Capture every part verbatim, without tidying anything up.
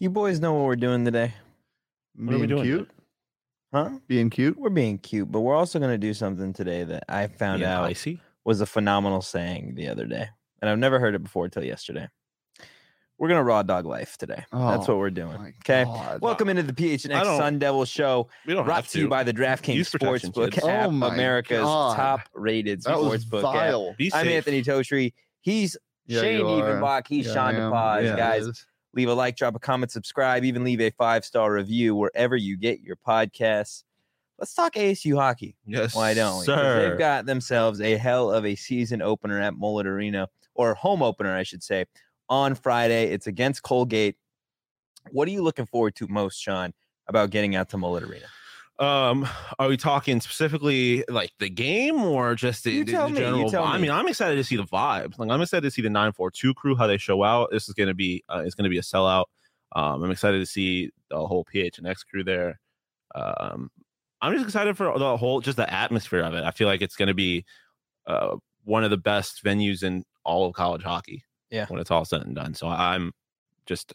You boys know what we're doing today. What are we Being doing? cute? Huh? Being cute? We're being cute, but we're also going to do something today that I found Being out icy? was a phenomenal saying the other day. And I've never heard it before until yesterday. We're going to raw dog life today. That's Oh, what we're doing. my Okay. God. Welcome into the P H N I X don't- Sun Devil Show, We don't brought have to you by the DraftKings Use protection, Sportsbook kids. app, Oh my America's God. top-rated That was sportsbook app. vile. Be I'm safe. Anthony Totri. He's Yeah, Shane you are. Evenbach. He's Yeah, Sean I am. DePaz. Yeah, Guys, it is. leave a like, drop a comment, subscribe, even leave a five-star review wherever you get your podcasts. Let's talk A S U hockey. Yes, Why don't we? 'Cause sir. They've got themselves a hell of a season opener at Mullet Arena, or home opener, I should say, on Friday. It's against Colgate. What are you looking forward to most, Sean, about getting out to Mullet Arena? Um, are we talking specifically like the game or just the, You the- tell the me, you general? tell I me. mean, I'm excited to see the vibes. Like, I'm excited to see the nine four two crew, how they show out. This is going to be, uh, it's going to be a sellout. Um, I'm excited to see the whole P H N X crew there. Um, I'm just excited for the whole, just the atmosphere of it. I feel like it's going to be uh, one of the best venues in all of college hockey. Yeah. When it's all said and done. So I'm just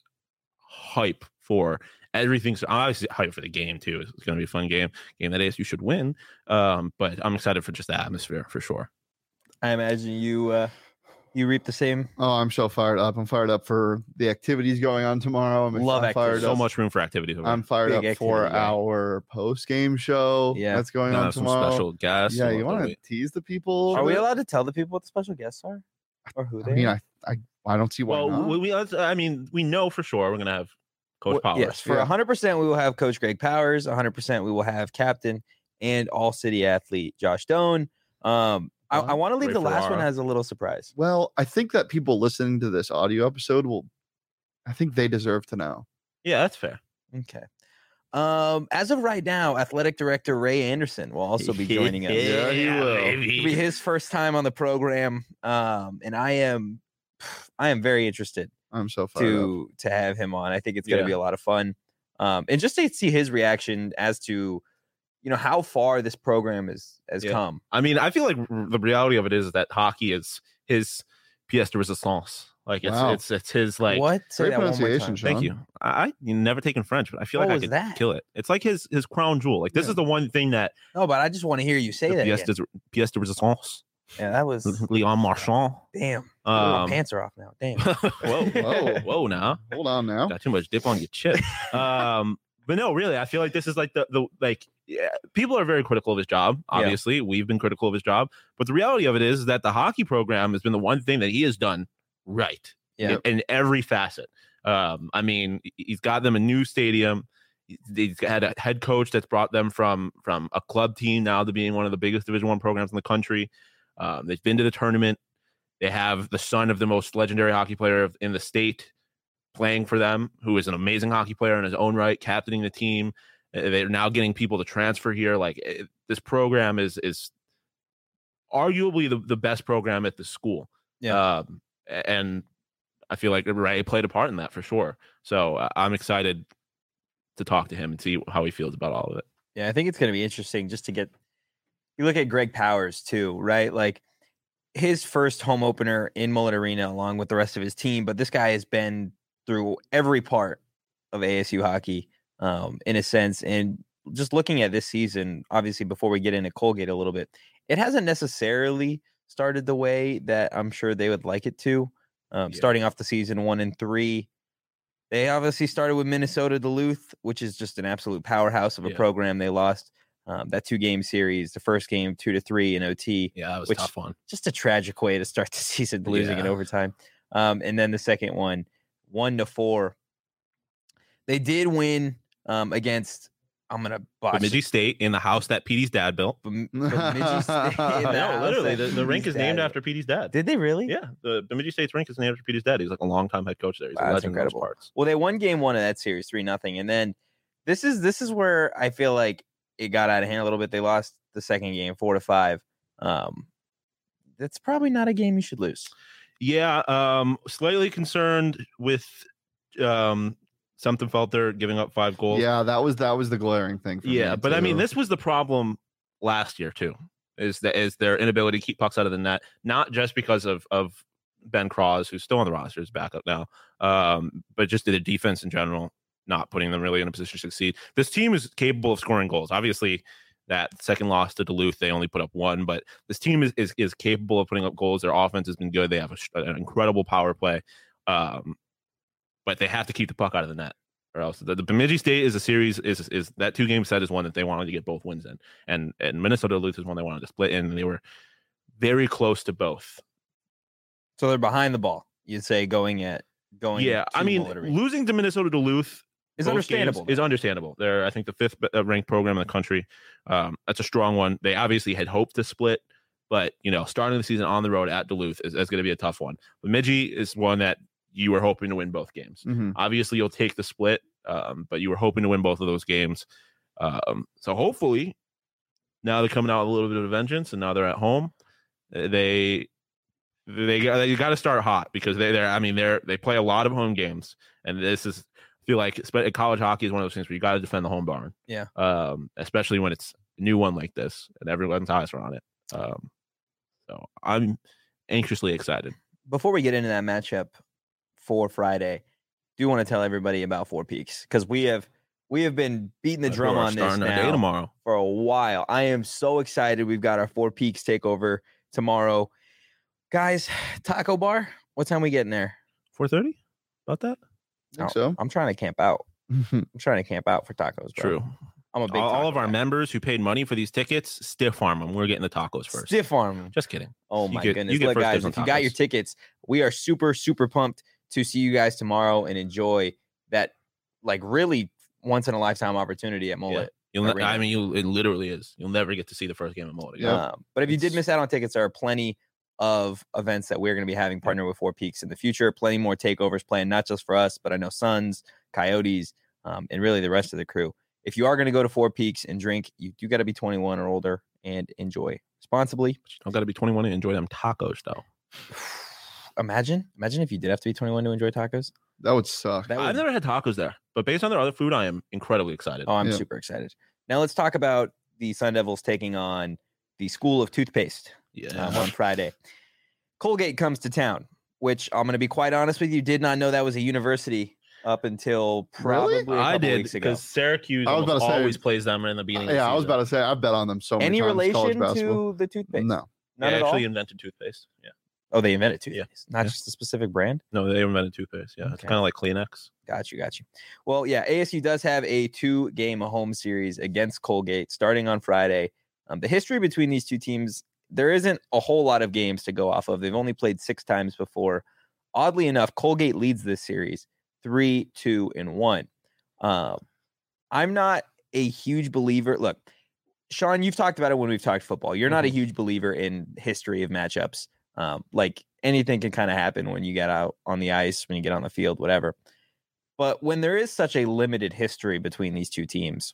hype for everything. So I'm obviously hype for the game too. It's going to be a fun game, game that A S U should win. Um, but I'm excited for just the atmosphere for sure. I imagine you uh, you reap the same. Oh, I'm so fired up. I'm fired up for the activities going on tomorrow. I'm, Love I'm fired activities. So up. much room for activity. over I'm fired Big up for activity, yeah. our post game show Yeah. that's going there. on Have some tomorrow. special guests. Yeah, We'll you have to want to wait. tease the people? Are we a bit? allowed to tell the people what the special guests are? Or who they I mean, are? I, I, I don't see why Well, not. we, we, let's- I mean, we know for sure we're going to have Coach Well, Powers. Yes, for Yeah. one hundred percent we will have Coach Greg Powers. one hundred percent we will have captain and all-city athlete Josh Doan. Um, I, I want to leave Ray the last one Ferrara. as a little surprise. Well, I think that people listening to this audio episode will, I think they deserve to know. Yeah, that's fair. Okay. Um, as of right now, athletic director Ray Anderson will also be joining us. Yeah, he will. It'll be his first time on the program, um, and I am, I am very interested I'm so fired up. to to have him on. I think it's going to Yeah. be a lot of fun, um, and just to see his reaction as to, you know, how far this program is has Yeah. come. I mean, I feel like r- the reality of it is that hockey is his pièce de résistance. Like it's Wow. it's it's his like. what? Say Great that one more pronunciation, time. Sean. Thank you. I, I you never taken French, but I feel What like I was could that? kill it. It's like his his crown jewel. Like this Yeah. is the one thing that No, but I just want to hear you say the that. pièce Again. de, pièce de résistance. Yeah, that was Leon Marchand. damn. Oh, my Um, pants are off now. Damn. whoa, Whoa. whoa! Now Hold on now. got too much dip on your chip. Um, but no, really, I feel like this is like the the like yeah, people are very critical of his job. Yeah. Obviously, we've been critical of his job, but the reality of it is that the hockey program has been the one thing that he has done right Yeah. in, in every facet. Um, I mean, he's got them a new stadium. He's had a head coach that's brought them from from a club team now to being one of the biggest Division One programs in the country. Um, they've been to the tournament. They have the son of the most legendary hockey player of- in the state playing for them, who is an amazing hockey player in his own right, captaining the team. Uh, They're now getting people to transfer here. Like it, this program is is arguably the, the best program at the school. Yeah. Um, a- and I feel like Ray played a part in that for sure. So uh, I'm excited to talk to him and see how he feels about all of it. Yeah, I think it's going to be interesting just to get. You look at Greg Powers too, right? Like his first home opener in Mullet Arena, along with the rest of his team. But this guy has been through every part of A S U hockey, um, in a sense. And just looking at this season, obviously, before we get into Colgate a little bit, it hasn't necessarily started the way that I'm sure they would like it to. Um, Yeah. Starting off the season one and three. They obviously started with Minnesota Duluth, which is just an absolute powerhouse of a Yeah. program. They lost um, that two game series, the first game two to three in O T. Yeah, that was Which- a tough one. Just a tragic way to start the season, losing in Yeah. overtime. Um, and then the second one, one to four. They did win um, against. I'm gonna botch. Bemidji State in the house that Petey's dad built. Bem- Bemidji State in the No, house literally, that the, the rink Petey's is named dad- after Petey's dad. Did they really? Yeah, the Bemidji State's rink is named after Petey's dad. He's like a longtime head coach there. He's Wow, a that's legend in those incredible. parts. Well, they won game one of that series, three nothing, and then this is this is where I feel like it got out of hand a little bit. They lost the second game, four to five. Um, that's probably not a game you should lose. Yeah, um, slightly concerned with um, something Felter giving up five goals. Yeah, that was that was the glaring thing. For Yeah, me, but I mean, too. this was the problem last year too. Is that is their inability to keep pucks out of the net, not just because of of Ben Cross, who's still on the roster, is back up now, um, but just the defense in general. not putting them really in a position to succeed. This team is capable of scoring goals. Obviously, that second loss to Duluth, they only put up one, but this team is is, is capable of putting up goals. Their offense has been good. They have a, an incredible power play, um, but they have to keep the puck out of the net, or else the, the Bemidji State is a series is is that two game set is one that they wanted to get both wins in, and and Minnesota Duluth is one they wanted to split in, and they were very close to both. So they're behind the ball, you'd say, going at going. Yeah, I mean, losing to Minnesota Duluth is understandable. Is understandable. They're, I think, the fifth ranked program in the country. Um, that's a strong one. They obviously had hoped to split, but you know, starting the season on the road at Duluth is, is going to be a tough one. Bemidji is one that you were hoping to win both games. Mm-hmm. Obviously, you'll take the split, um, but you were hoping to win both of those games. Um, so hopefully, now they're coming out with a little bit of vengeance, and now they're at home. They they got you got to start hot because they they're I mean they're they play a lot of home games, and this is. Feel like college hockey is one of those things where you got to defend the home barn. Yeah. Um, especially when it's a new one like this and everyone's eyes are on it. Um, so I'm anxiously excited. Before we get into that matchup for Friday, do want to tell everybody about Four Peaks because we have we have been beating the drum on this now tomorrow. for a while. I am so excited. We've got our Four Peaks takeover tomorrow, guys. Taco bar. What time we getting there? four thirty. About that. I think so. I'm trying to camp out. I'm trying to camp out for tacos. Bro. True. I'm a big all, all of our guy. members who paid money for these tickets, stiff arm them. We're getting the tacos first. Stiff arm them. Just kidding. Oh my get, goodness. Look, guys, if you got your tickets, we are super, super pumped to see you guys tomorrow and enjoy that, like, really once in a lifetime opportunity at Mullet. Yeah. You'll, I mean, you it literally is. You'll never get to see the first game at Mullet again. Yeah. Um, but if you did miss out on tickets, there are plenty of events that we're going to be having partner with Four Peaks in the future. Plenty more takeovers planned, not just for us, but I know Suns, Coyotes, um, and really the rest of the crew. If you are going to go to Four Peaks and drink, you do got to be twenty-one or older and enjoy responsibly. But you don't got to be twenty-one and enjoy them tacos, though. Imagine, imagine if you did have to be twenty-one to enjoy tacos. That would suck. That would... I've never had tacos there, but based on their other food, I am incredibly excited. Oh, I'm yeah. super excited. Now let's talk about the Sun Devils taking on the School of Toothpaste yeah. um, on Friday. Colgate comes to town, which I'm going to be quite honest with you, did not know that was a university up until probably Really? a couple I did weeks ago. because Syracuse I was about to say- always plays them in the beginning. Uh, of the yeah, I was season. about to say I bet on them so many Any times in college relation basketball. to the toothpaste? No. None they at actually all? invented toothpaste. Yeah. Oh, they invented toothpaste, Yeah. not Yeah. just a specific brand? No, they invented toothpaste. Yeah. It's Okay. kind of like Kleenex. Got you, got you. Well, yeah, A S U does have a two-game home series against Colgate starting on Friday. Um, the history between these two teams, there isn't a whole lot of games to go off of. They've only played six times before. Oddly enough, Colgate leads this series three, two, and one. Um, I'm not a huge believer. Look, Sean, you've talked about it when we've talked football. You're not a huge believer in history of matchups. Um, like anything can kind of happen when you get out on the ice, when you get on the field, whatever. But when there is such a limited history between these two teams,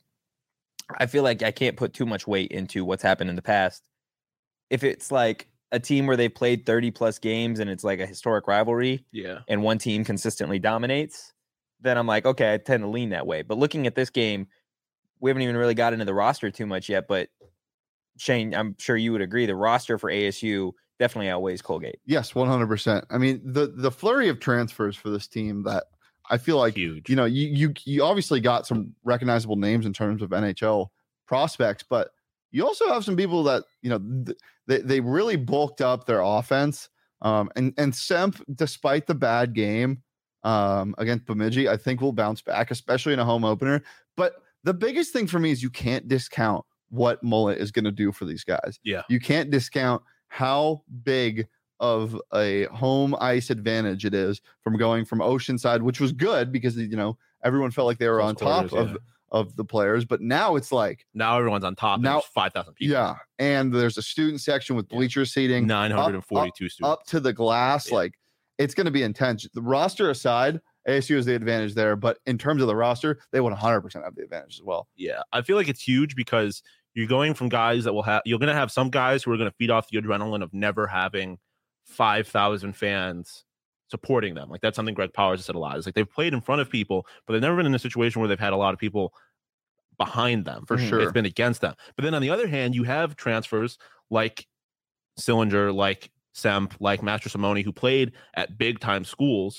I feel like I can't put too much weight into what's happened in the past. If it's like a team where they've played thirty plus games and it's like a historic rivalry Yeah. and one team consistently dominates, then I'm like, okay, I tend to lean that way. But looking at this game, we haven't even really got into the roster too much yet. But Shane, I'm sure you would agree, the roster for A S U definitely outweighs Colgate. Yes, one hundred percent. I mean, the the flurry of transfers for this team that I feel like, Huge. you know, you you you obviously got some recognizable names in terms of N H L prospects, but you also have some people that, you know, th- they they really bulked up their offense. Um, and and Semp, despite the bad game um, against Bemidji, I think will bounce back, especially in a home opener. But the biggest thing for me is you can't discount what Mullet is going to do for these guys. Yeah. You can't discount how big of a home ice advantage it is from going from Oceanside, which was good because, you know, everyone felt like they were Close on top quarters, of, yeah. of the players. But now it's like, Now everyone's on top. Now- Now five thousand people. yeah. And there's a student section with Yeah. bleacher seating nine hundred forty-two students. up to the glass. Yeah. Like, it's going to be intense. The roster aside, A S U has the advantage there. But in terms of the roster, they would one hundred percent have the advantage as well. Yeah, I feel like it's huge because you're going from guys that will have you're going to have some guys who are going to feed off the adrenaline of never having five thousand fans supporting them. Like that's something Greg Powers has said a lot. It's like they've played in front of people, but they've never been in a situation where they've had a lot of people behind them. For sure. It's been against them. But then on the other hand, you have transfers like Sillinger, like Semp, like Master Simone, who played at big time schools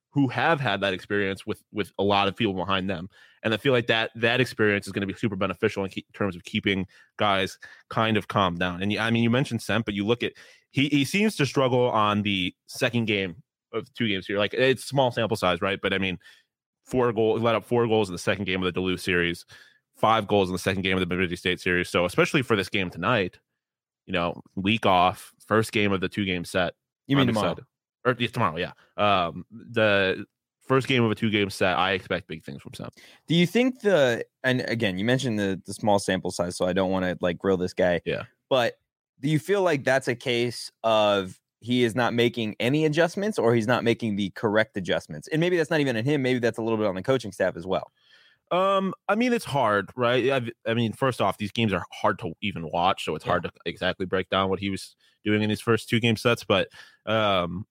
who have had that experience with with a lot of people behind them. And I feel like that that experience is going to be super beneficial in, keep, in terms of keeping guys kind of calmed down. And I mean, you mentioned Semp, but you look at he he seems to struggle on the second game of two games here. Like, it's small sample size, right? But I mean, four goals, let up four goals in the second game of the Duluth series, five goals in the second game of the Bemidji State series. So especially for this game tonight, you know, week off, first game of the two game set. You mean I'm tomorrow? excited. Or yeah, tomorrow, yeah. Um, the first game of a two game set, I expect big things from Semp. Do you think the and again, you mentioned the the small sample size, so I don't want to like grill this guy. Yeah. But do you feel like that's a case of he is not making any adjustments, or he's not making the correct adjustments? And maybe that's not even in him. Maybe that's a little bit on the coaching staff as well. Um, I mean, it's hard, right? I've, I mean, first off, these games are hard to even watch, so it's Yeah. hard to exactly break down what he was doing in his first two game sets. But um,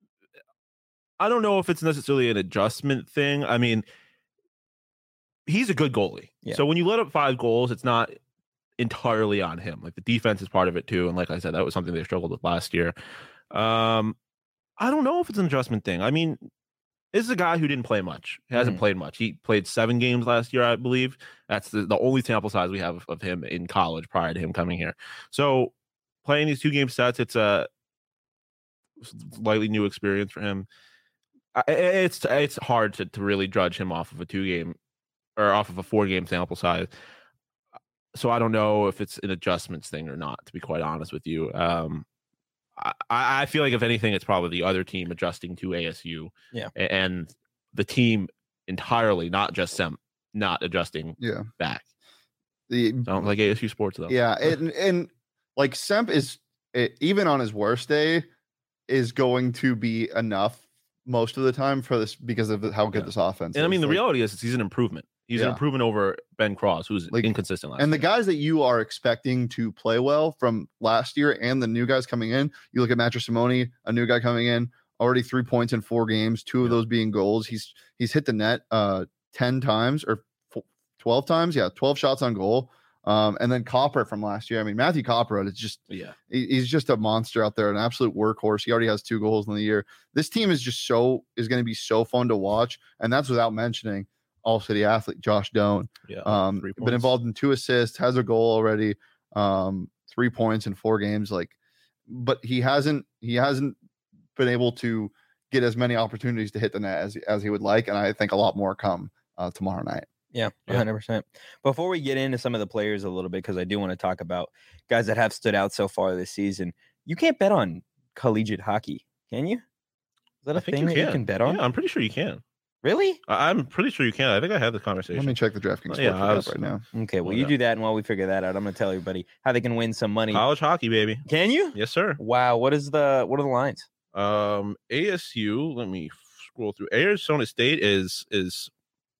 I don't know if it's necessarily an adjustment thing. I mean, he's a good goalie. Yeah. So when you let up five goals, it's not entirely on him. Like, the defense is part of it too. And like I said, that was something they struggled with last year. Um, I don't know if it's an adjustment thing. I mean, this is a guy who didn't play much. He hasn't Mhm. played much. He played seven games last year, I believe. That's the, the only sample size we have of him in college prior to him coming here. So playing these two game sets, it's a slightly new experience for him. I, it's it's hard to, to really judge him off of a two game or off of a four game sample size. So I don't know if it's an adjustments thing or not, to be quite honest with you. Um, I, I feel like if anything, it's probably the other team adjusting to A S U. Yeah. And the team entirely, not just Semp, not adjusting Yeah. back. The Sounds like A S U sports though. Yeah, and and like Semp is it, even on his worst day is going to be enough most of the time for this because of how good Yeah. this offense And I is. mean, the Like, reality is he's an improvement. He's an Yeah. improvement over Ben Cross, who's Like, inconsistent last and the year. guys that you are expecting to play well from last year and the new guys coming in, you look at Matthew Simone, a new guy coming in, already three points in four games, two of Yeah. those being goals. He's he's hit the net uh ten times or f- twelve times. Yeah, twelve shots on goal. Um, and then Copper from last year. I mean, Matthew Copper is just Yeah. he- he's just a monster out there, an absolute workhorse. He already has two goals in the year. This team is just so is going to be so fun to watch, and that's without mentioning All City athlete Josh Doan. Yeah. Um, three been points. involved in two assists, has a goal already, um, three points in four games. Like, but he hasn't he hasn't been able to get as many opportunities to hit the net as as he would like, and I think a lot more come uh, tomorrow night. Yeah, Yeah. one hundred percent. Before we get into some of the players a little bit, because I do want to talk about guys that have stood out so far this season, you can't bet on collegiate hockey, can you? Is that a I think thing you that can. you can bet on? Yeah, I'm pretty sure you can. Really? I- I'm pretty sure you can. I think I had this conversation. Let me check the DraftKings Oh, yeah, sportsbook I app was- right now. Okay, well, Well, you yeah. do that, and while we figure that out, I'm going to tell everybody how they can win some money. College hockey, baby. Can you? Yes, sir. Wow, what is the what are the lines? Um, A S U. Let me scroll through. Arizona State is is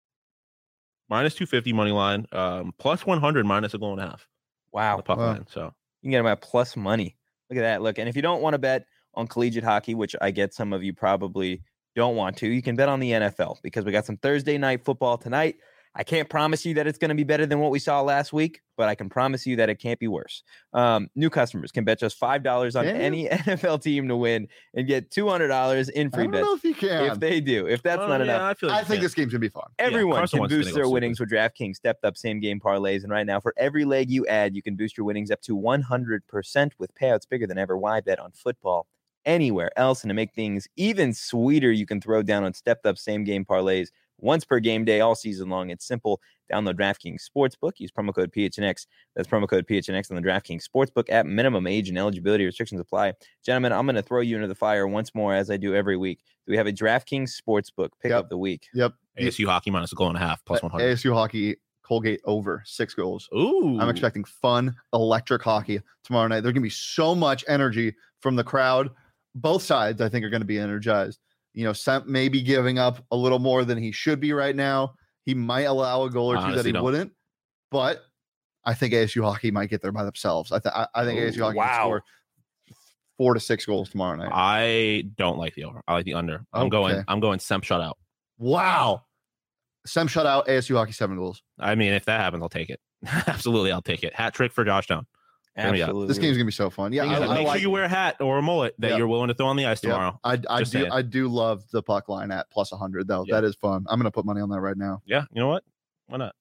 minus two fifty money line. Um, plus one hundred minus a goal and a half. Wow, The puck Wow. line. So you can get them at plus money. Look at that. Look, and if you don't want to bet on collegiate hockey, which I get some of you probably don't want to, you can bet on the N F L because we got some Thursday night football tonight. I can't promise you that it's going to be better than what we saw last week, but I can promise you that it can't be worse. Um, new customers can bet just five dollars on Can you? any N F L team to win and get two hundred dollars in I free don't bets know if you can. if they do. If that's Well, not yeah, enough, I feel like I you think can. this game's gonna be fun. everyone Carson can Wentz is boost gonna their go winnings with DraftKings stepped up same game parlays. And right now, for every leg you add, you can boost your winnings up to one hundred percent with payouts bigger than ever. Why bet on football anywhere else? And to make things even sweeter, you can throw down on stepped up same game parlays once per game day all season long. It's simple. Download DraftKings Sportsbook. Use promo code P H N X. That's promo code P H N X on the DraftKings Sportsbook app. Minimum age and eligibility restrictions apply. Gentlemen, I'm going to throw you into the fire once more, as I do every week. Do we have a DraftKings Sportsbook pick Yep. of the week? Yep. A S U hockey minus a goal and a half plus one hundred. A S U hockey, Colgate over six goals. Ooh, I'm expecting fun, electric hockey tomorrow night. There's going to be so much energy from the crowd. Both sides, I think, are going to be energized. You know, Semp may be giving up a little more than he should be right now. He might allow a goal or two that Honestly he don't. wouldn't, but I think A S U hockey might get there by themselves. I, th- I, I think Ooh, A S U hockey wow. can score four to six goals tomorrow night. I don't like the over. I like the under. I'm going. Okay. I'm going Semp shutout. Wow. Sem shut out A S U hockey seven goals. I mean, if that happens, I'll take it. Absolutely, I'll take it. Hat trick for Josh Down. Hear me out. Absolutely. This game's gonna be so fun. Yeah, Thing is I, that I make like, sure you wear a hat or a mullet that Yep. you're willing to throw on the ice yeah, tomorrow. I, I Just do saying. I do love the puck line at plus one hundred though. Yeah. That is fun. I'm gonna put money on that right now. Yeah, you know what? Why not?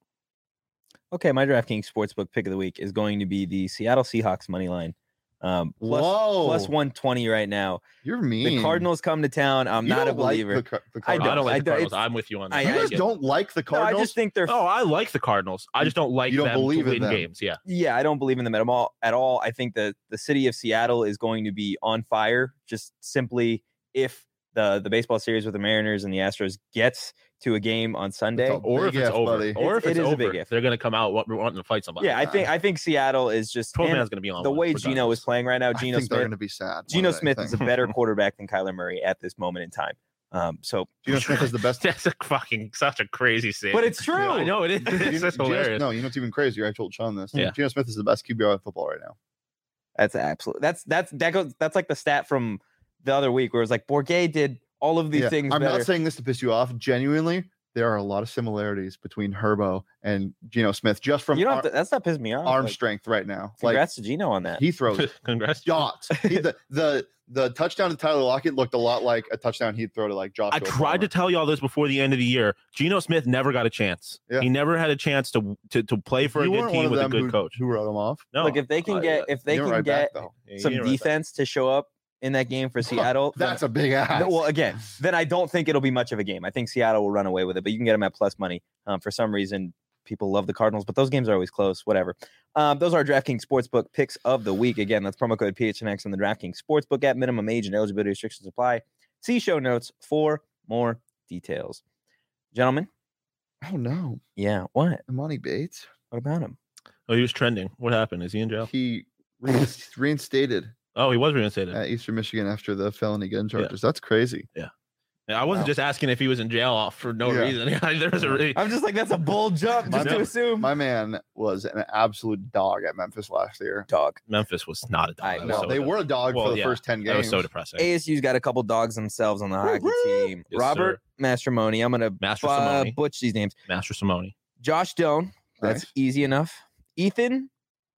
Okay, my DraftKings Sportsbook pick of the week is going to be the Seattle Seahawks money line. Um, plus, Whoa. plus one twenty right now. You're mean. The Cardinals come to town. I'm You not a don't like believer. the, Car- the I Cardinals. I don't like I the don't- Cardinals. it's- I'm with you on that. I- You I guys get- don't like the No, Cardinals. I just think they're. Oh, I like the Cardinals. I just don't like You don't them believe to in win them. games. Yeah. Yeah, I don't believe in them at all. At all. I think that the city of Seattle is going to be on fire. Just simply if the the baseball series with the Mariners and the Astros gets to a game on Sunday. a Or if big it's if, over. buddy. Or if It- it's it is a over, big if. they're going to come out wa- wanting to fight somebody. Yeah, I think I think Seattle is just twelve and man's going to be on the one, way Geno regardless. is playing right now. I Geno think they're Smith. going to be sad. more Geno than Smith is a anything. better quarterback than Kyler Murray at this moment in time. Um, so, Geno Smith is the best. That's a fucking such a crazy statement. but it's true. I know it is. It's Geno- just Geno- hilarious. No, you know what's even crazier? I told Sean this. Yeah. Geno Smith is the best Q B R in football right now. That's absolute. That's that's that goes. That's like the stat from the other week where it was like Bourget did all of these Yeah, things I'm better. not saying this to piss you off. Genuinely, there are a lot of similarities between Herbo and Geno Smith just from you don't. ar- Have to, that's not pissing me off. arm Like, strength right now. Like congrats to Geno on that. he throws Congrats. dots. He, the the the touchdown to Tyler Lockett looked a lot like a touchdown he'd throw to like Josh. I tried to tell y'all this before the end of the year. Geno Smith never got a chance. Yeah. He never had a chance to to, to play for you a good weren't one team of with a them good who, coach. who wrote him off. No, Look, if they can uh, get if they You can went right get back, though. yeah, some you were right defense to show up in that game for Seattle, then- That's a big ass. No, well, again, then I don't think it'll be much of a game. I think Seattle will run away with it, but you can get them at plus money. Um, for some reason, people love the Cardinals, but those games are always close. Whatever. Um, those are our DraftKings Sportsbook picks of the week. Again, that's promo code P H N X on the DraftKings Sportsbook app. Minimum age and eligibility restrictions apply. See show notes for more details. Gentlemen, Oh no, yeah, what? Imani Bates. What about him? Oh, he was trending. What happened? Is he in jail? He reinst- reinstated Oh, he was reinstated. at Eastern Michigan after the felony gun charges. That's crazy. Yeah, I wasn't Wow. just asking if he was in jail for no Yeah. reason. there was a really, I'm just like, that's a bold jump My just to man- assume. My man was an absolute dog at Memphis last year. Dog. Memphis was not a dog. I That was No, know. so they dumb. were a dog Well, for the yeah, first ten That games. was so depressing. A S U's got a couple dogs themselves on the hockey Woo-hoo! team. Yes, Robert Mastromoni. I'm gonna Master uh, Simone, butch these names. Master Simone. Josh Doan. That's Nice. easy enough. Ethan.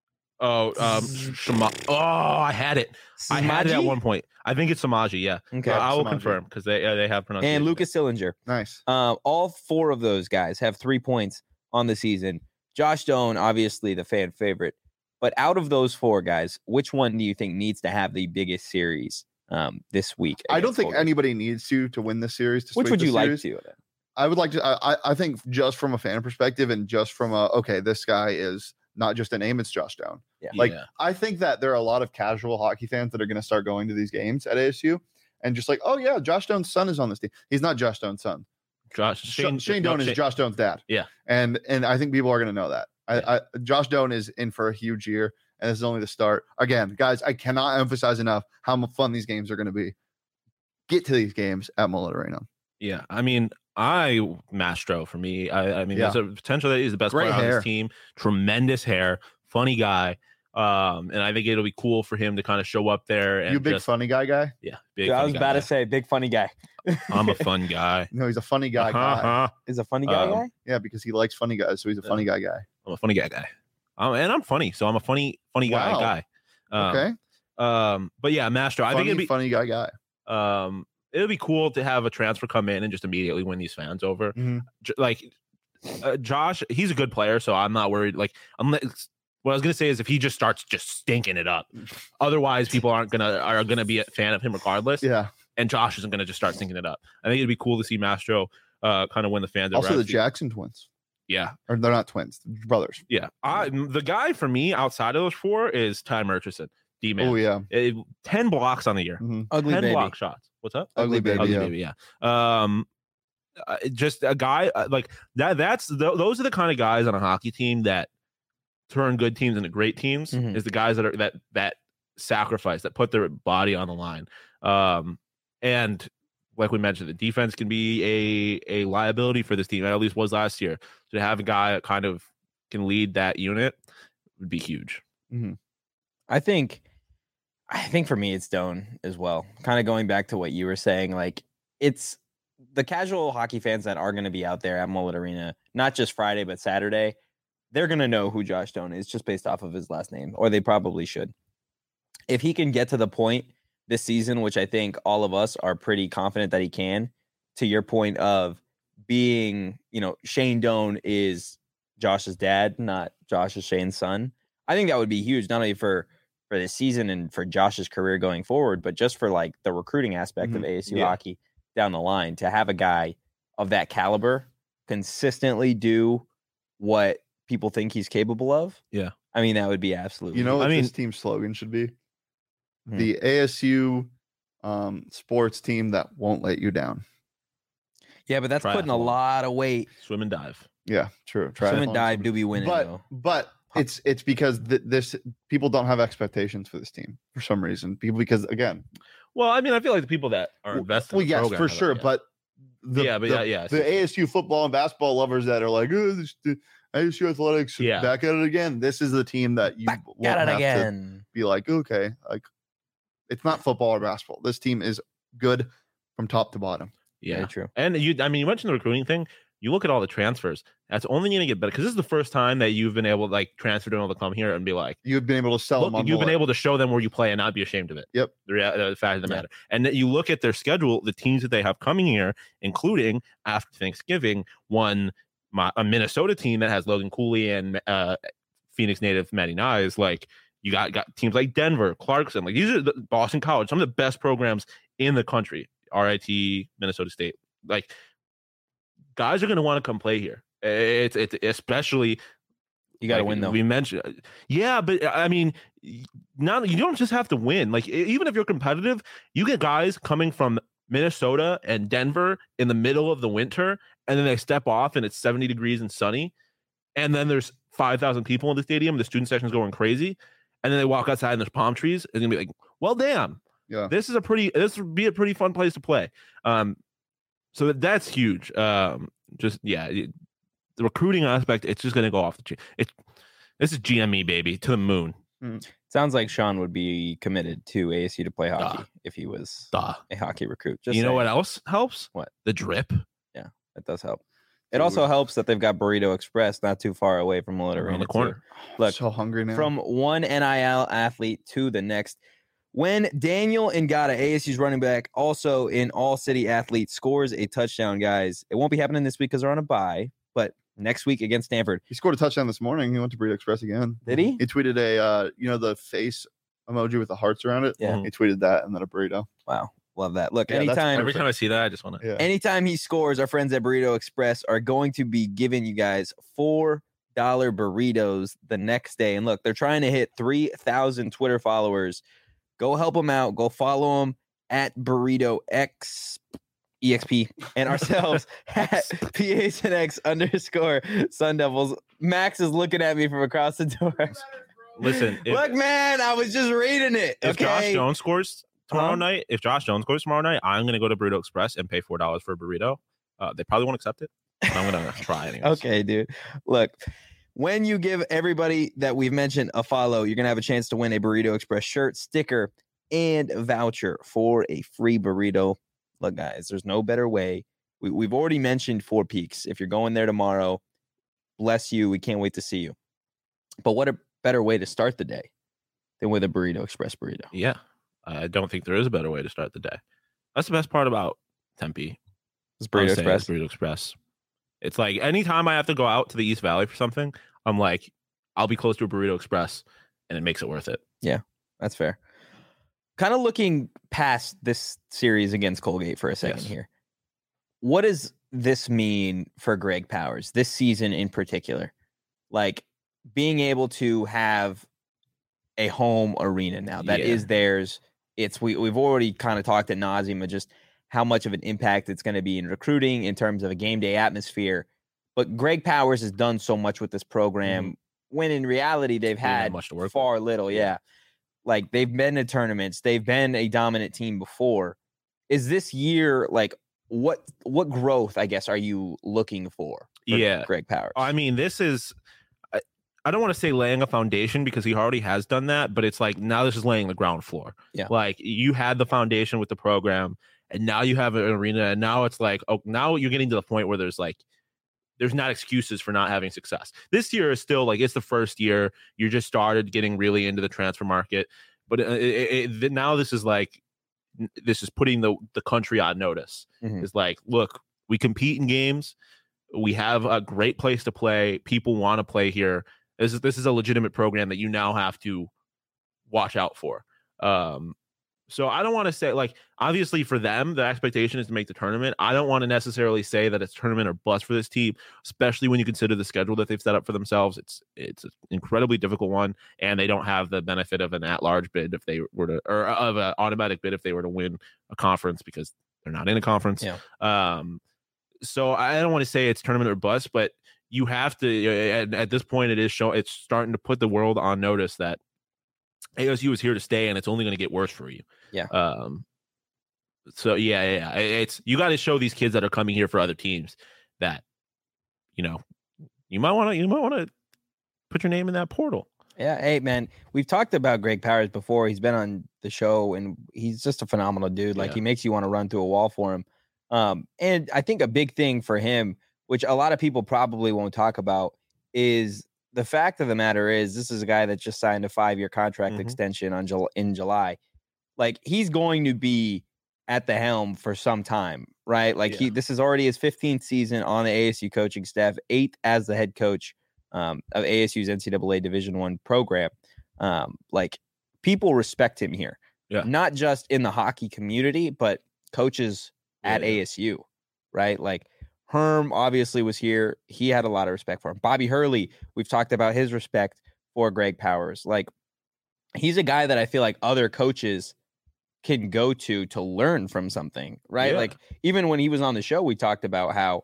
Oh, um, Shama- oh, I had it. I had it at Simaji? one point. I think it's Samaji. Yeah, Okay. I will Samaji. confirm because they uh, they have pronunciation. And Lucas Sillinger. Nice. Uh, all four of those guys have three points on the season. Josh Doan, obviously the fan favorite. But out of those four guys, which one do you think needs to have the biggest series um, this week? I don't against think Colgate? anybody needs to to win this series. To Which sweep would the you like series. to? I would like to. I, I- I think just from a fan perspective and just from a okay, this guy is not just a name; it's Josh Doan. Yeah. Like Yeah. I think that there are a lot of casual hockey fans that are going to start going to these games at A S U and just like, oh yeah, Josh Doan's son is on this team. He's not Josh Doan's son. Josh Shane, Shane, Shane no, Doan is Shane- Josh Doan's dad. Yeah. and and I think people are going to know that. I, I Josh Doan is in for a huge year, and this is only the start. Again, guys, I cannot emphasize enough how mu- fun these games are going to be. Get to these games at Mullet Arena. Yeah, I mean, I Mastro for me. I, I mean, Yeah. there's a potential that he's the best Great player on hair. this team. Tremendous hair, funny guy. Um, and I think it'll be cool for him to kind of show up there and You a big just, funny guy guy? yeah, big. Dude, I funny was guy, about to yeah. say, big funny guy. I'm a fun guy. No, he's a funny guy guy. Uh-huh. Is a funny guy Um, guy? Yeah, because he likes funny guys, so he's a Yeah. funny guy guy. I'm a funny guy guy. Um, and I'm funny, so I'm a funny, funny guy Wow. guy. Um, Okay, Um, but yeah, Mastro. I funny, think it'd be funny guy guy. um, it'd be cool to have a transfer come in and just immediately win these fans over. Mhm. J- like uh, Josh, he's a good player, so I'm not worried. Like, unless what I was gonna say is if he just starts just stinking it up, otherwise people aren't gonna are gonna be a fan of him regardless. Yeah. And Josh isn't gonna just start stinking it up. I think it'd be cool to see Mastro uh kind of win the fans. Also, over. the Jackson twins, yeah, or they're not twins, they're brothers. yeah. I, the guy for me outside of those four is Ty Murchison, D man. Oh yeah, Eh, ten blocks on the year, Mhm. Ugly ten baby. block shots. What's up? ugly baby. Ugly yeah. baby, yeah. Um, uh, just a guy uh, like that. That's th- those are the kind of guys on a hockey team that turn good teams into great teams. Mhm. Is the guys that are that that sacrifice that put their body on the line. Um, and like we mentioned, the defense can be a a liability for this team. At least was last year. To have a guy that kind of can lead that unit would be huge. I think, I think for me, it's Doan as well. Kind of going back to what you were saying, like it's the casual hockey fans that are going to be out there at Mullet Arena, not just Friday but Saturday. they're going to know who Josh Doan is just based off of his last name, or they probably should. If he can get to the point this season, which I think all of us are pretty confident that he can, to your point of being, you know, Shane Doan is Josh's dad, not Josh is Shane's son. I think that would be huge, not only for for this season and for Josh's career going forward, but just for like the recruiting aspect Mm-hmm. of A S U Yeah. hockey down the line, to have a guy of that caliber consistently do what people think he's capable of. Yeah. I mean, that would be absolutely. You know what I mean- this team's slogan should be? Hmm. The A S U um, sports team that won't let you down. yeah, but that's putting a Triathlon. lot of weight. Swim and dive. Yeah, true. Swim and Triathlon, dive swim- do be winning but though. but it's it's because th- this people don't have expectations for this team for some reason. People because again, Well, I mean, I feel like the people that are well, invested. well, in the yes, program for have it, sure. yeah. But the, Yeah, but the, yeah, yeah, I see the what you're A S U football and basketball lovers that are like, oh, this, the A S U athletics, Yeah. back at it again. This is the team that you Back won't at it have to again. be like, okay, like it's not football or basketball. This team is good from top to bottom. yeah, Very true. and you, I mean, you mentioned the recruiting thing. You look at all the transfers. That's only going to get better because this is the first time that you've been able to like transfer to able to come here and be like, You've been able to sell look, them on you've been bullet. able to show them where you play and not be ashamed of it. Yep. The, rea- the fact of the Yeah. matter. And that you look at their schedule, the teams that they have coming here, including after Thanksgiving, one my, a Minnesota team that has Logan Cooley and uh, Phoenix native Matty Nyes. Like you got got teams like Denver, Clarkson. Like these are the Boston College, some of the best programs in the country. R I T, Minnesota State. Like guys are going to want to come play here. It's it's especially. You got to Like, win though. We mentioned, yeah, but I mean, y- not you don't just have to win. Like e- even if you're competitive, you get guys coming from Minnesota and Denver in the middle of the winter, and then they step off and it's seventy degrees and sunny, and then there's five thousand people in the stadium. The student section's going crazy, and then they walk outside and there's palm trees. It's gonna be like, well, damn, Yeah. this is a pretty. This would be a pretty fun place to play. Um, so that, that's huge. Um, just yeah. It, the recruiting aspect, it's just going to go off the chain. It's this is G M E baby to the moon. Sounds like Sean would be committed to A S U to play hockey Duh. if he was Duh. a hockey recruit. Just you know saying. what else helps? What? The drip That does help. It also helps that they've got Burrito Express not too far away from Millett around Arena the corner. Look, so hungry now. From one N I L athlete to the next. When Daniel Ngata, A S U's running back, also an all-city athlete, scores a touchdown, guys, it won't be happening this week because they're on a bye, but next week against Stanford. he scored a touchdown this morning. He went to Burrito Express again. Did he? He tweeted a uh, you know, the face emoji with the hearts around it. Yeah. Mhm. He tweeted that and then a burrito. Wow. Love that. Look, Yeah, that's anytime Every time I see that, I just want to. Yeah. anytime he scores, our friends at Burrito Express are going to be giving you guys four dollar burritos the next day. And look, they're trying to hit three thousand Twitter followers. Go help them out. Go follow them at Burrito X E X P and ourselves at P H N X underscore Sun Devils. Max is looking at me from across the door. Listen, if, Look, man, I was just reading it. if Josh Okay. Jones scores tomorrow Huh? night, if Josh Jones scores tomorrow night, I'm going to go to Burrito Express and pay four dollars for a burrito. Uh, they probably won't accept it. But I'm going to try anyways. Okay, dude. Look, when you give everybody that we've mentioned a follow, you're going to have a chance to win a Burrito Express shirt, sticker, and a voucher for a free burrito. Look, guys, there's no better way. We, we've already mentioned Four Peaks. If you're going there tomorrow, bless you. We can't wait to see you. But what a better way to start the day than with a Burrito Express burrito. Yeah, I don't think there is a better way to start the day. That's the best part about Tempe. It's I would Burrito say Express. it's Burrito Express. It's like anytime I have to go out to the East Valley for something, I'm like, I'll be close to a Burrito Express, and it makes it worth it. That's fair. Kind of looking past this series against Colgate for a second Yes. here. What does this mean for Greg Powers this season in particular? Like being able to have a home arena now that is Yeah. theirs. It's we we've already kind of talked at nauseum of just how much of an impact it's going to be in recruiting in terms of a game day atmosphere. But Greg Powers has done so much with this program when in reality they've Didn't have had much to work with. far little. Yeah. Like they've been to tournaments, they've been a dominant team before. Is this year like what what growth, I guess, are you looking for? for Yeah. Greg Powers. I mean, this is, I, I don't want to say laying a foundation because he already has done that, but it's like now this is laying the ground floor. Yeah. Like you had the foundation with the program, and now you have an arena, and now it's like, oh, now you're getting to the point where there's like, there's not excuses for not having success. This year is still like, it's the first year. You just started getting really into the transfer market. But it, it, it, now this is like, this is putting the, the country on notice. Mhm. It's like, look, we compete in games. We have a great place to play. People want to play here. This is, this is a legitimate program that you now have to watch out for. Um, So I don't want to say, like, obviously for them, the expectation is to make the tournament. I don't want to necessarily say that it's tournament or bust for this team, especially when you consider the schedule that they've set up for themselves. It's it's an incredibly difficult one, and they don't have the benefit of an at-large bid if they were to, or of an automatic bid if they were to win a conference, because they're not in a conference. Yeah. Um, so I don't want to say it's tournament or bust, but you have to, at, at this point, it is show, it's starting to put the world on notice that A S U is here to stay, and it's only going to get worse for you. Yeah. Um. So yeah, yeah, yeah. It's, you got to show these kids that are coming here for other teams that, you know, you might want to, you might want to put your name in that portal. Yeah. Hey, man, we've talked about Greg Powers before. He's been on the show, and he's just a phenomenal dude. Like, Yeah. he makes you want to run through a wall for him. Um, and I think a big thing for him, which a lot of people probably won't talk about, is the fact of the matter is this is a guy that just signed a five-year contract Mhm. extension on Jul- in July. Like, he's going to be at the helm for some time, right? Like, he Yeah. this is already his fifteenth season on the A S U coaching staff, eighth as the head coach um, of A S U's N C double A Division One program. Um, like, people respect him here, Yeah. not just in the hockey community, but coaches at Yeah. A S U, right? Like, Herm obviously was here. He had a lot of respect for him. Bobby Hurley, we've talked about his respect for Greg Powers. Like, he's a guy that I feel like other coaches can go to to learn from something, right? Yeah. Like, even when he was on the show, we talked about how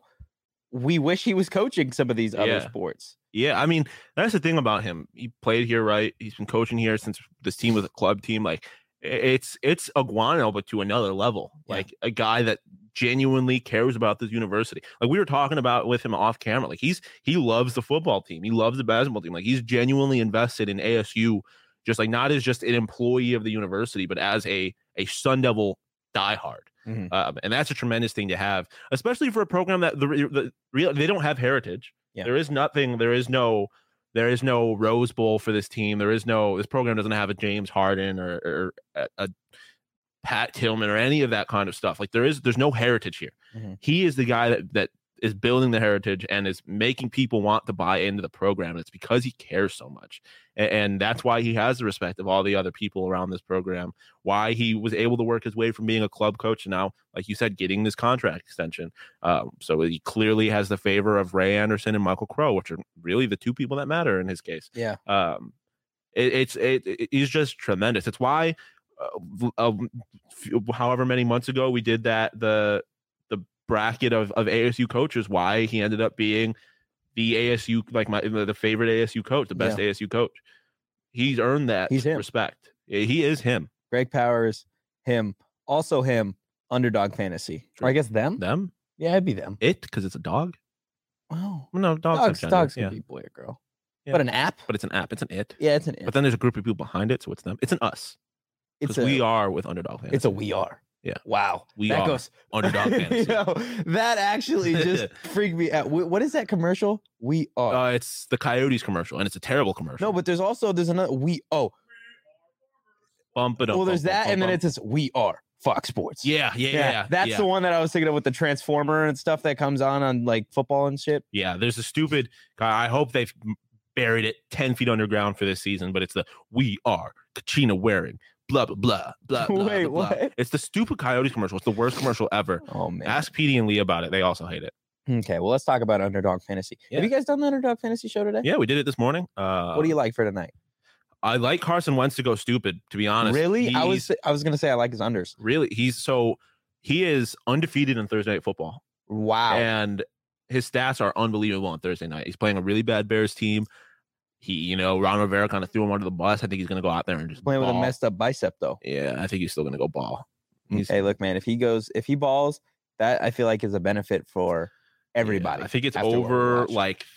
we wish he was coaching some of these other Yeah. sports. Yeah, I mean, that's the thing about him. He played here, right? He's been coaching here since this team was a club team. Like, it's it's Iguano, but to another level. Yeah. Like, a guy that genuinely cares about this university. Like, we were talking about with him off camera. Like, he's he loves the football team. He loves the basketball team. Like, he's genuinely invested in A S U, just like not as just an employee of the university, but as a a Sun Devil diehard. Mhm. Um, and that's a tremendous thing to have, especially for a program that the, the real they don't have heritage. Yeah. There is nothing. There is no. There is no Rose Bowl for this team. There is no. This program doesn't have a James Harden or, or a, a Pat Tillman or any of that kind of stuff. Like, there is. There's no heritage here. Mhm. He is the guy that that is building the heritage and is making people want to buy into the program. And it's because he cares so much. And, and that's why he has the respect of all the other people around this program, why he was able to work his way from being a club coach to now, like you said, getting this contract extension. Um, so he clearly has the favor of Ray Anderson and Michael Crow, which are really the two people that matter in his case. Yeah. Um, it, it's, it, it, he's just tremendous. It's why, uh, uh, however many months ago we did that, the, bracket of, of A S U coaches, why he ended up being the A S U, like my the favorite A S U coach, the best Yeah. A S U coach. He's earned that He's him. respect. He is him. Greg Powers, him, also him, Underdog Fantasy. Or I guess them? Them? Yeah, it'd be them. It, because it's a dog? Wow. No, dogs. Dogs, have dogs gender. can Yeah. be boy or girl. Yeah. But an app? But it's an app. It's an it. Yeah, it's an But app. then there's a group of people behind it, so it's them. It's an us. It's Because a, we are with Underdog Fantasy. it's a we are. Yeah. Wow. We that are goes Underdog Fantasy. You know, that actually just freaked me out. Wh- What is that commercial? We are. Uh, it's the Coyotes commercial, and it's a terrible commercial. no, but there's also there's another we oh bump it up. well there's bump, that bump, and then bump. it's this we are Fox Sports. yeah, yeah, yeah, yeah. That's yeah. the one that I was thinking of with the Transformer and stuff that comes on on like football and shit. Yeah, there's a stupid. I hope they've buried it ten feet underground for this season, but it's the we are Kachina wearing blah blah blah blah blah. Wait, blah, blah. what? It's the stupid Coyotes commercial. It's the worst commercial ever. Oh man. Ask Petey and Lee about it. They also hate it. Okay, well let's talk about Underdog Fantasy. Yeah. Have you guys done the Underdog Fantasy show today? Yeah, we did it this morning. Uh, What do you like for tonight? I like Carson Wentz to go stupid. To be honest, Really? I He's- was I was gonna say I like his unders. really he's so he is undefeated in Thursday Night Football. Wow. And his stats are unbelievable on Thursday night. He's playing a really bad Bears team. He, you know, Ron Rivera kind of threw him under the bus. I think he's going to go out there and just Playing with a ball. messed up bicep though. Yeah, I think he's still going to go ball. He's, Hey, look, man, if he goes, if he balls, that I feel like is a benefit for everybody. yeah, I think it's after what we over watched. like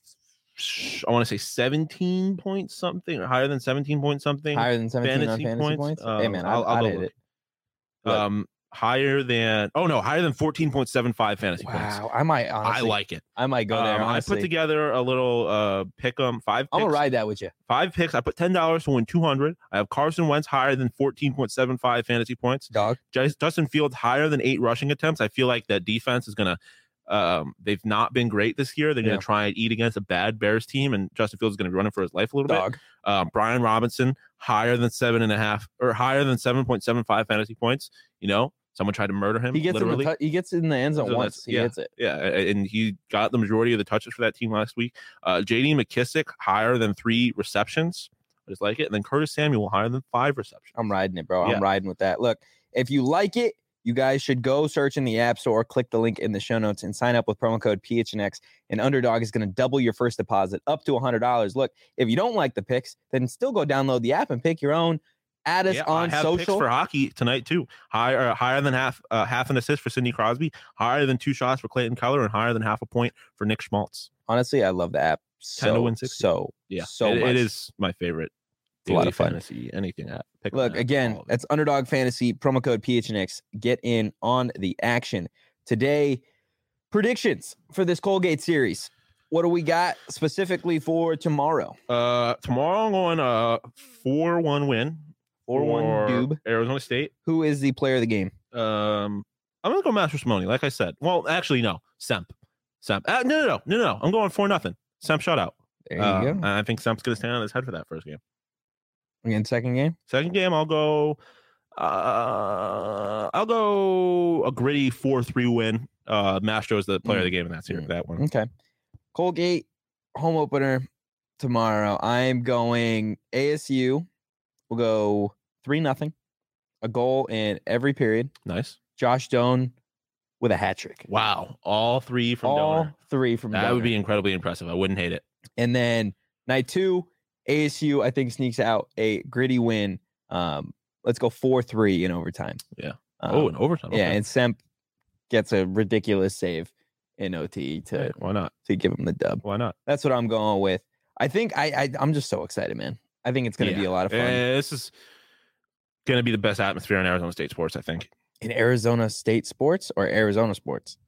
I want to say seventeen points something or higher than seventeen points something. higher than seventeen on fantasy fantasy points? points. Um, hey, man, I'll- I'll, I'll I'll go hit look. it. Look, Um, higher than oh no, higher than fourteen point seven five fantasy points. Wow, I might honestly, I like it. I might go there. Um, I honestly. put together a little uh pick 'em five. Picks, I'm gonna ride that with you. Five picks. I put ten dollars to win two hundred. I have Carson Wentz higher than fourteen point seven five fantasy points. Dog. Justin Fields higher than eight rushing attempts. I feel like that defense is gonna. Um, they've not been great this year. They're gonna Yeah. try and eat against a bad Bears team, and Justin Fields is gonna be running for his life a little Dog. bit. Um, Brian Robinson higher than seven and a half or higher than seven point seven five fantasy points. You know, someone tried to murder him. He gets in literally. the tu- he gets in the end zone So once. that's- He yeah. hits it. Yeah, and he got the majority of the touches for that team last week. Uh, J D McKissick higher than three receptions. I just like it. And then Curtis Samuel higher than five receptions. I'm riding it, bro. Yeah. I'm riding with that. Look, if you like it, you guys should go search in the App Store, click the link in the show notes, and sign up with promo code P H N X. And Underdog is going to double your first deposit up to one hundred dollars. Look, if you don't like the picks, then still go download the app and pick your own. Add us Yeah, on I have social. picks for hockey tonight too. Higher, higher than half, uh, half an assist for Sidney Crosby. Higher than two shots for Clayton Keller, and higher than half a point for Nick Schmaltz. Honestly, I love the app ten to so win sixty. so Yeah, so it, much. it is my favorite. It's a lot daily of fun. Fantasy, anything app. Pick 'em Look, app, again, all of it. that's Underdog Fantasy, promo code P H N X. Get in on the action. Today, predictions for this Colgate series. What do we got specifically for tomorrow? Uh, tomorrow I'm going uh four one win four one for Doob. Arizona State. Who is the player of the game? Um, I'm gonna go Master Simone, like I said. Well, actually, no, Semp. Semp. Uh, no, no, no, no, no. I'm going four nothing. Semp shutout. There you Uh, go. and I think Semp's gonna stand on his head for that first game. Again, second game. Second game, I'll go. Uh, I'll go a gritty four three win. Uh, Mastro's the player of the game in that series. Mm. That one. Okay. Colgate home opener tomorrow. I'm going A S U. We'll go three nothing. A goal in every period. Nice. Josh Doan with a hat trick. Wow, all three from All Donor. three from That Donor. would be incredibly impressive. I wouldn't hate it. And then night two, A S U, I think, sneaks out a gritty win. Um, let's go four three in overtime. Yeah. Um, oh, in overtime. yeah, Okay. and Semp gets a ridiculous save in O T to, Hey, why not? to give him the dub. Why not? That's what I'm going with. I think I, I I'm just so excited, man. I think it's going to be Yeah. a lot of fun. Eh, this is going to be the best atmosphere in Arizona State sports, I think. In Arizona State sports or Arizona sports?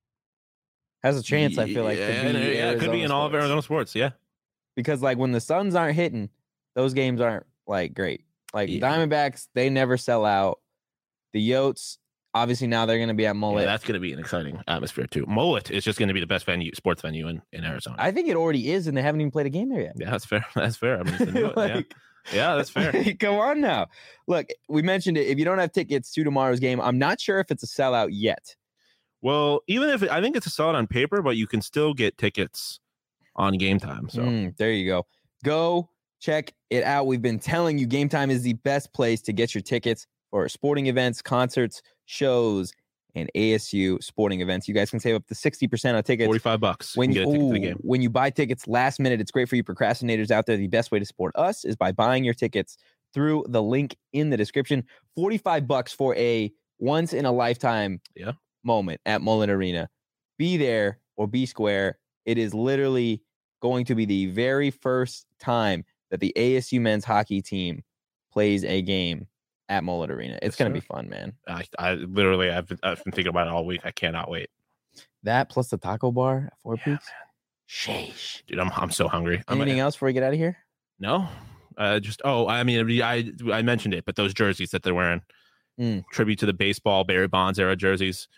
Has a chance, I feel like, yeah, to be yeah, it could be Arizona in all of sports. Arizona sports. Yeah. Because like when the Suns aren't hitting, those games aren't like great. Like Yeah. Diamondbacks, they never sell out. The Yotes, obviously now they're going to be at Yeah, Mullet. that's going to be an exciting atmosphere too. Mullet is just going to be the best venue, sports venue in, in Arizona. I think it already is, and they haven't even played a game there yet. yeah, that's fair. That's fair. I mean, it's a new- yeah. Like, yeah, that's fair. Come on now. Look, we mentioned it. If you don't have tickets to tomorrow's game, I'm not sure if it's a sellout yet. Well, even if it, I think it's a solid on paper, but you can still get tickets on game time. So Mm, there you go. Go check it out. We've been telling you Game Time is the best place to get your tickets for sporting events, concerts, shows, and A S U sporting events. You guys can save up to sixty percent on tickets. forty-five bucks. When you you, get a ticket to the ooh, game. when you buy tickets last minute, it's great for you procrastinators out there. The best way to support us is by buying your tickets through the link in the description. forty-five bucks for a once in a lifetime Yeah. moment at Mullet Arena. Be there or be square. It is literally going to be the very first time that the A S U men's hockey team plays a game at Mullet Arena. It's Yes, going to sir. be fun, man. I, I literally, I've been, I've been thinking about it all week. I cannot wait, That plus the taco bar at Four Yeah, Peaks. Sheesh. dude. I'm, I'm so hungry. I'm, Anything else before we get out of here? No, uh, just oh, I mean, I I mentioned it, but those jerseys that they're wearing, Mm. tribute to the baseball Barry Bonds era jerseys.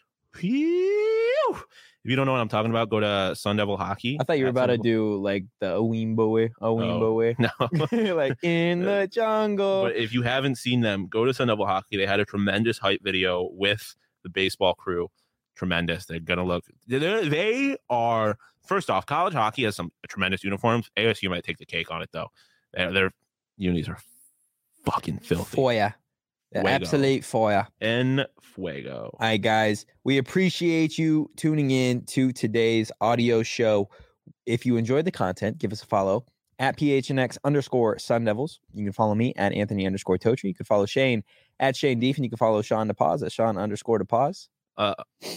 Phew. If you don't know what I'm talking about, go to Sun Devil Hockey. I thought you were at about to Sun do like the Owimbo way. Owimbo way. Devil- No, like in the jungle. but if you haven't seen them, go to Sun Devil Hockey. They had a tremendous hype video with the baseball crew. Tremendous. They're gonna look. They're, they are. First off, college hockey has some tremendous uniforms. A S U might take the cake on it though. Their, their unis are fucking filthy. Fire. The Fuego. absolute fire. En fuego. All right, guys. We appreciate you tuning in to today's audio show. If you enjoyed the content, give us a follow at P H N X underscore Sun Devils. You can follow me at Anthony underscore Totri. You can follow Shane at Shane Deef, and you can follow Sean DePaz at Sean underscore DePaz. Uh,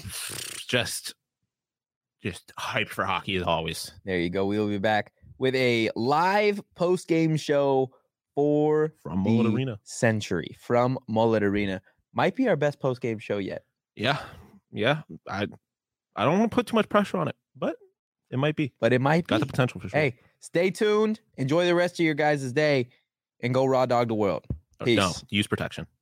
just, just hype for hockey as always. There you go. We will be back with a live post game show for From Mullet the Arena. century from Mullet Arena. Might be our best post game show yet. Yeah, yeah. I I don't want to put too much pressure on it, but it might be. But it might Got be. the potential for sure. Hey, stay tuned. Enjoy the rest of your guys' day, and go raw dog the world. Peace. No, use protection.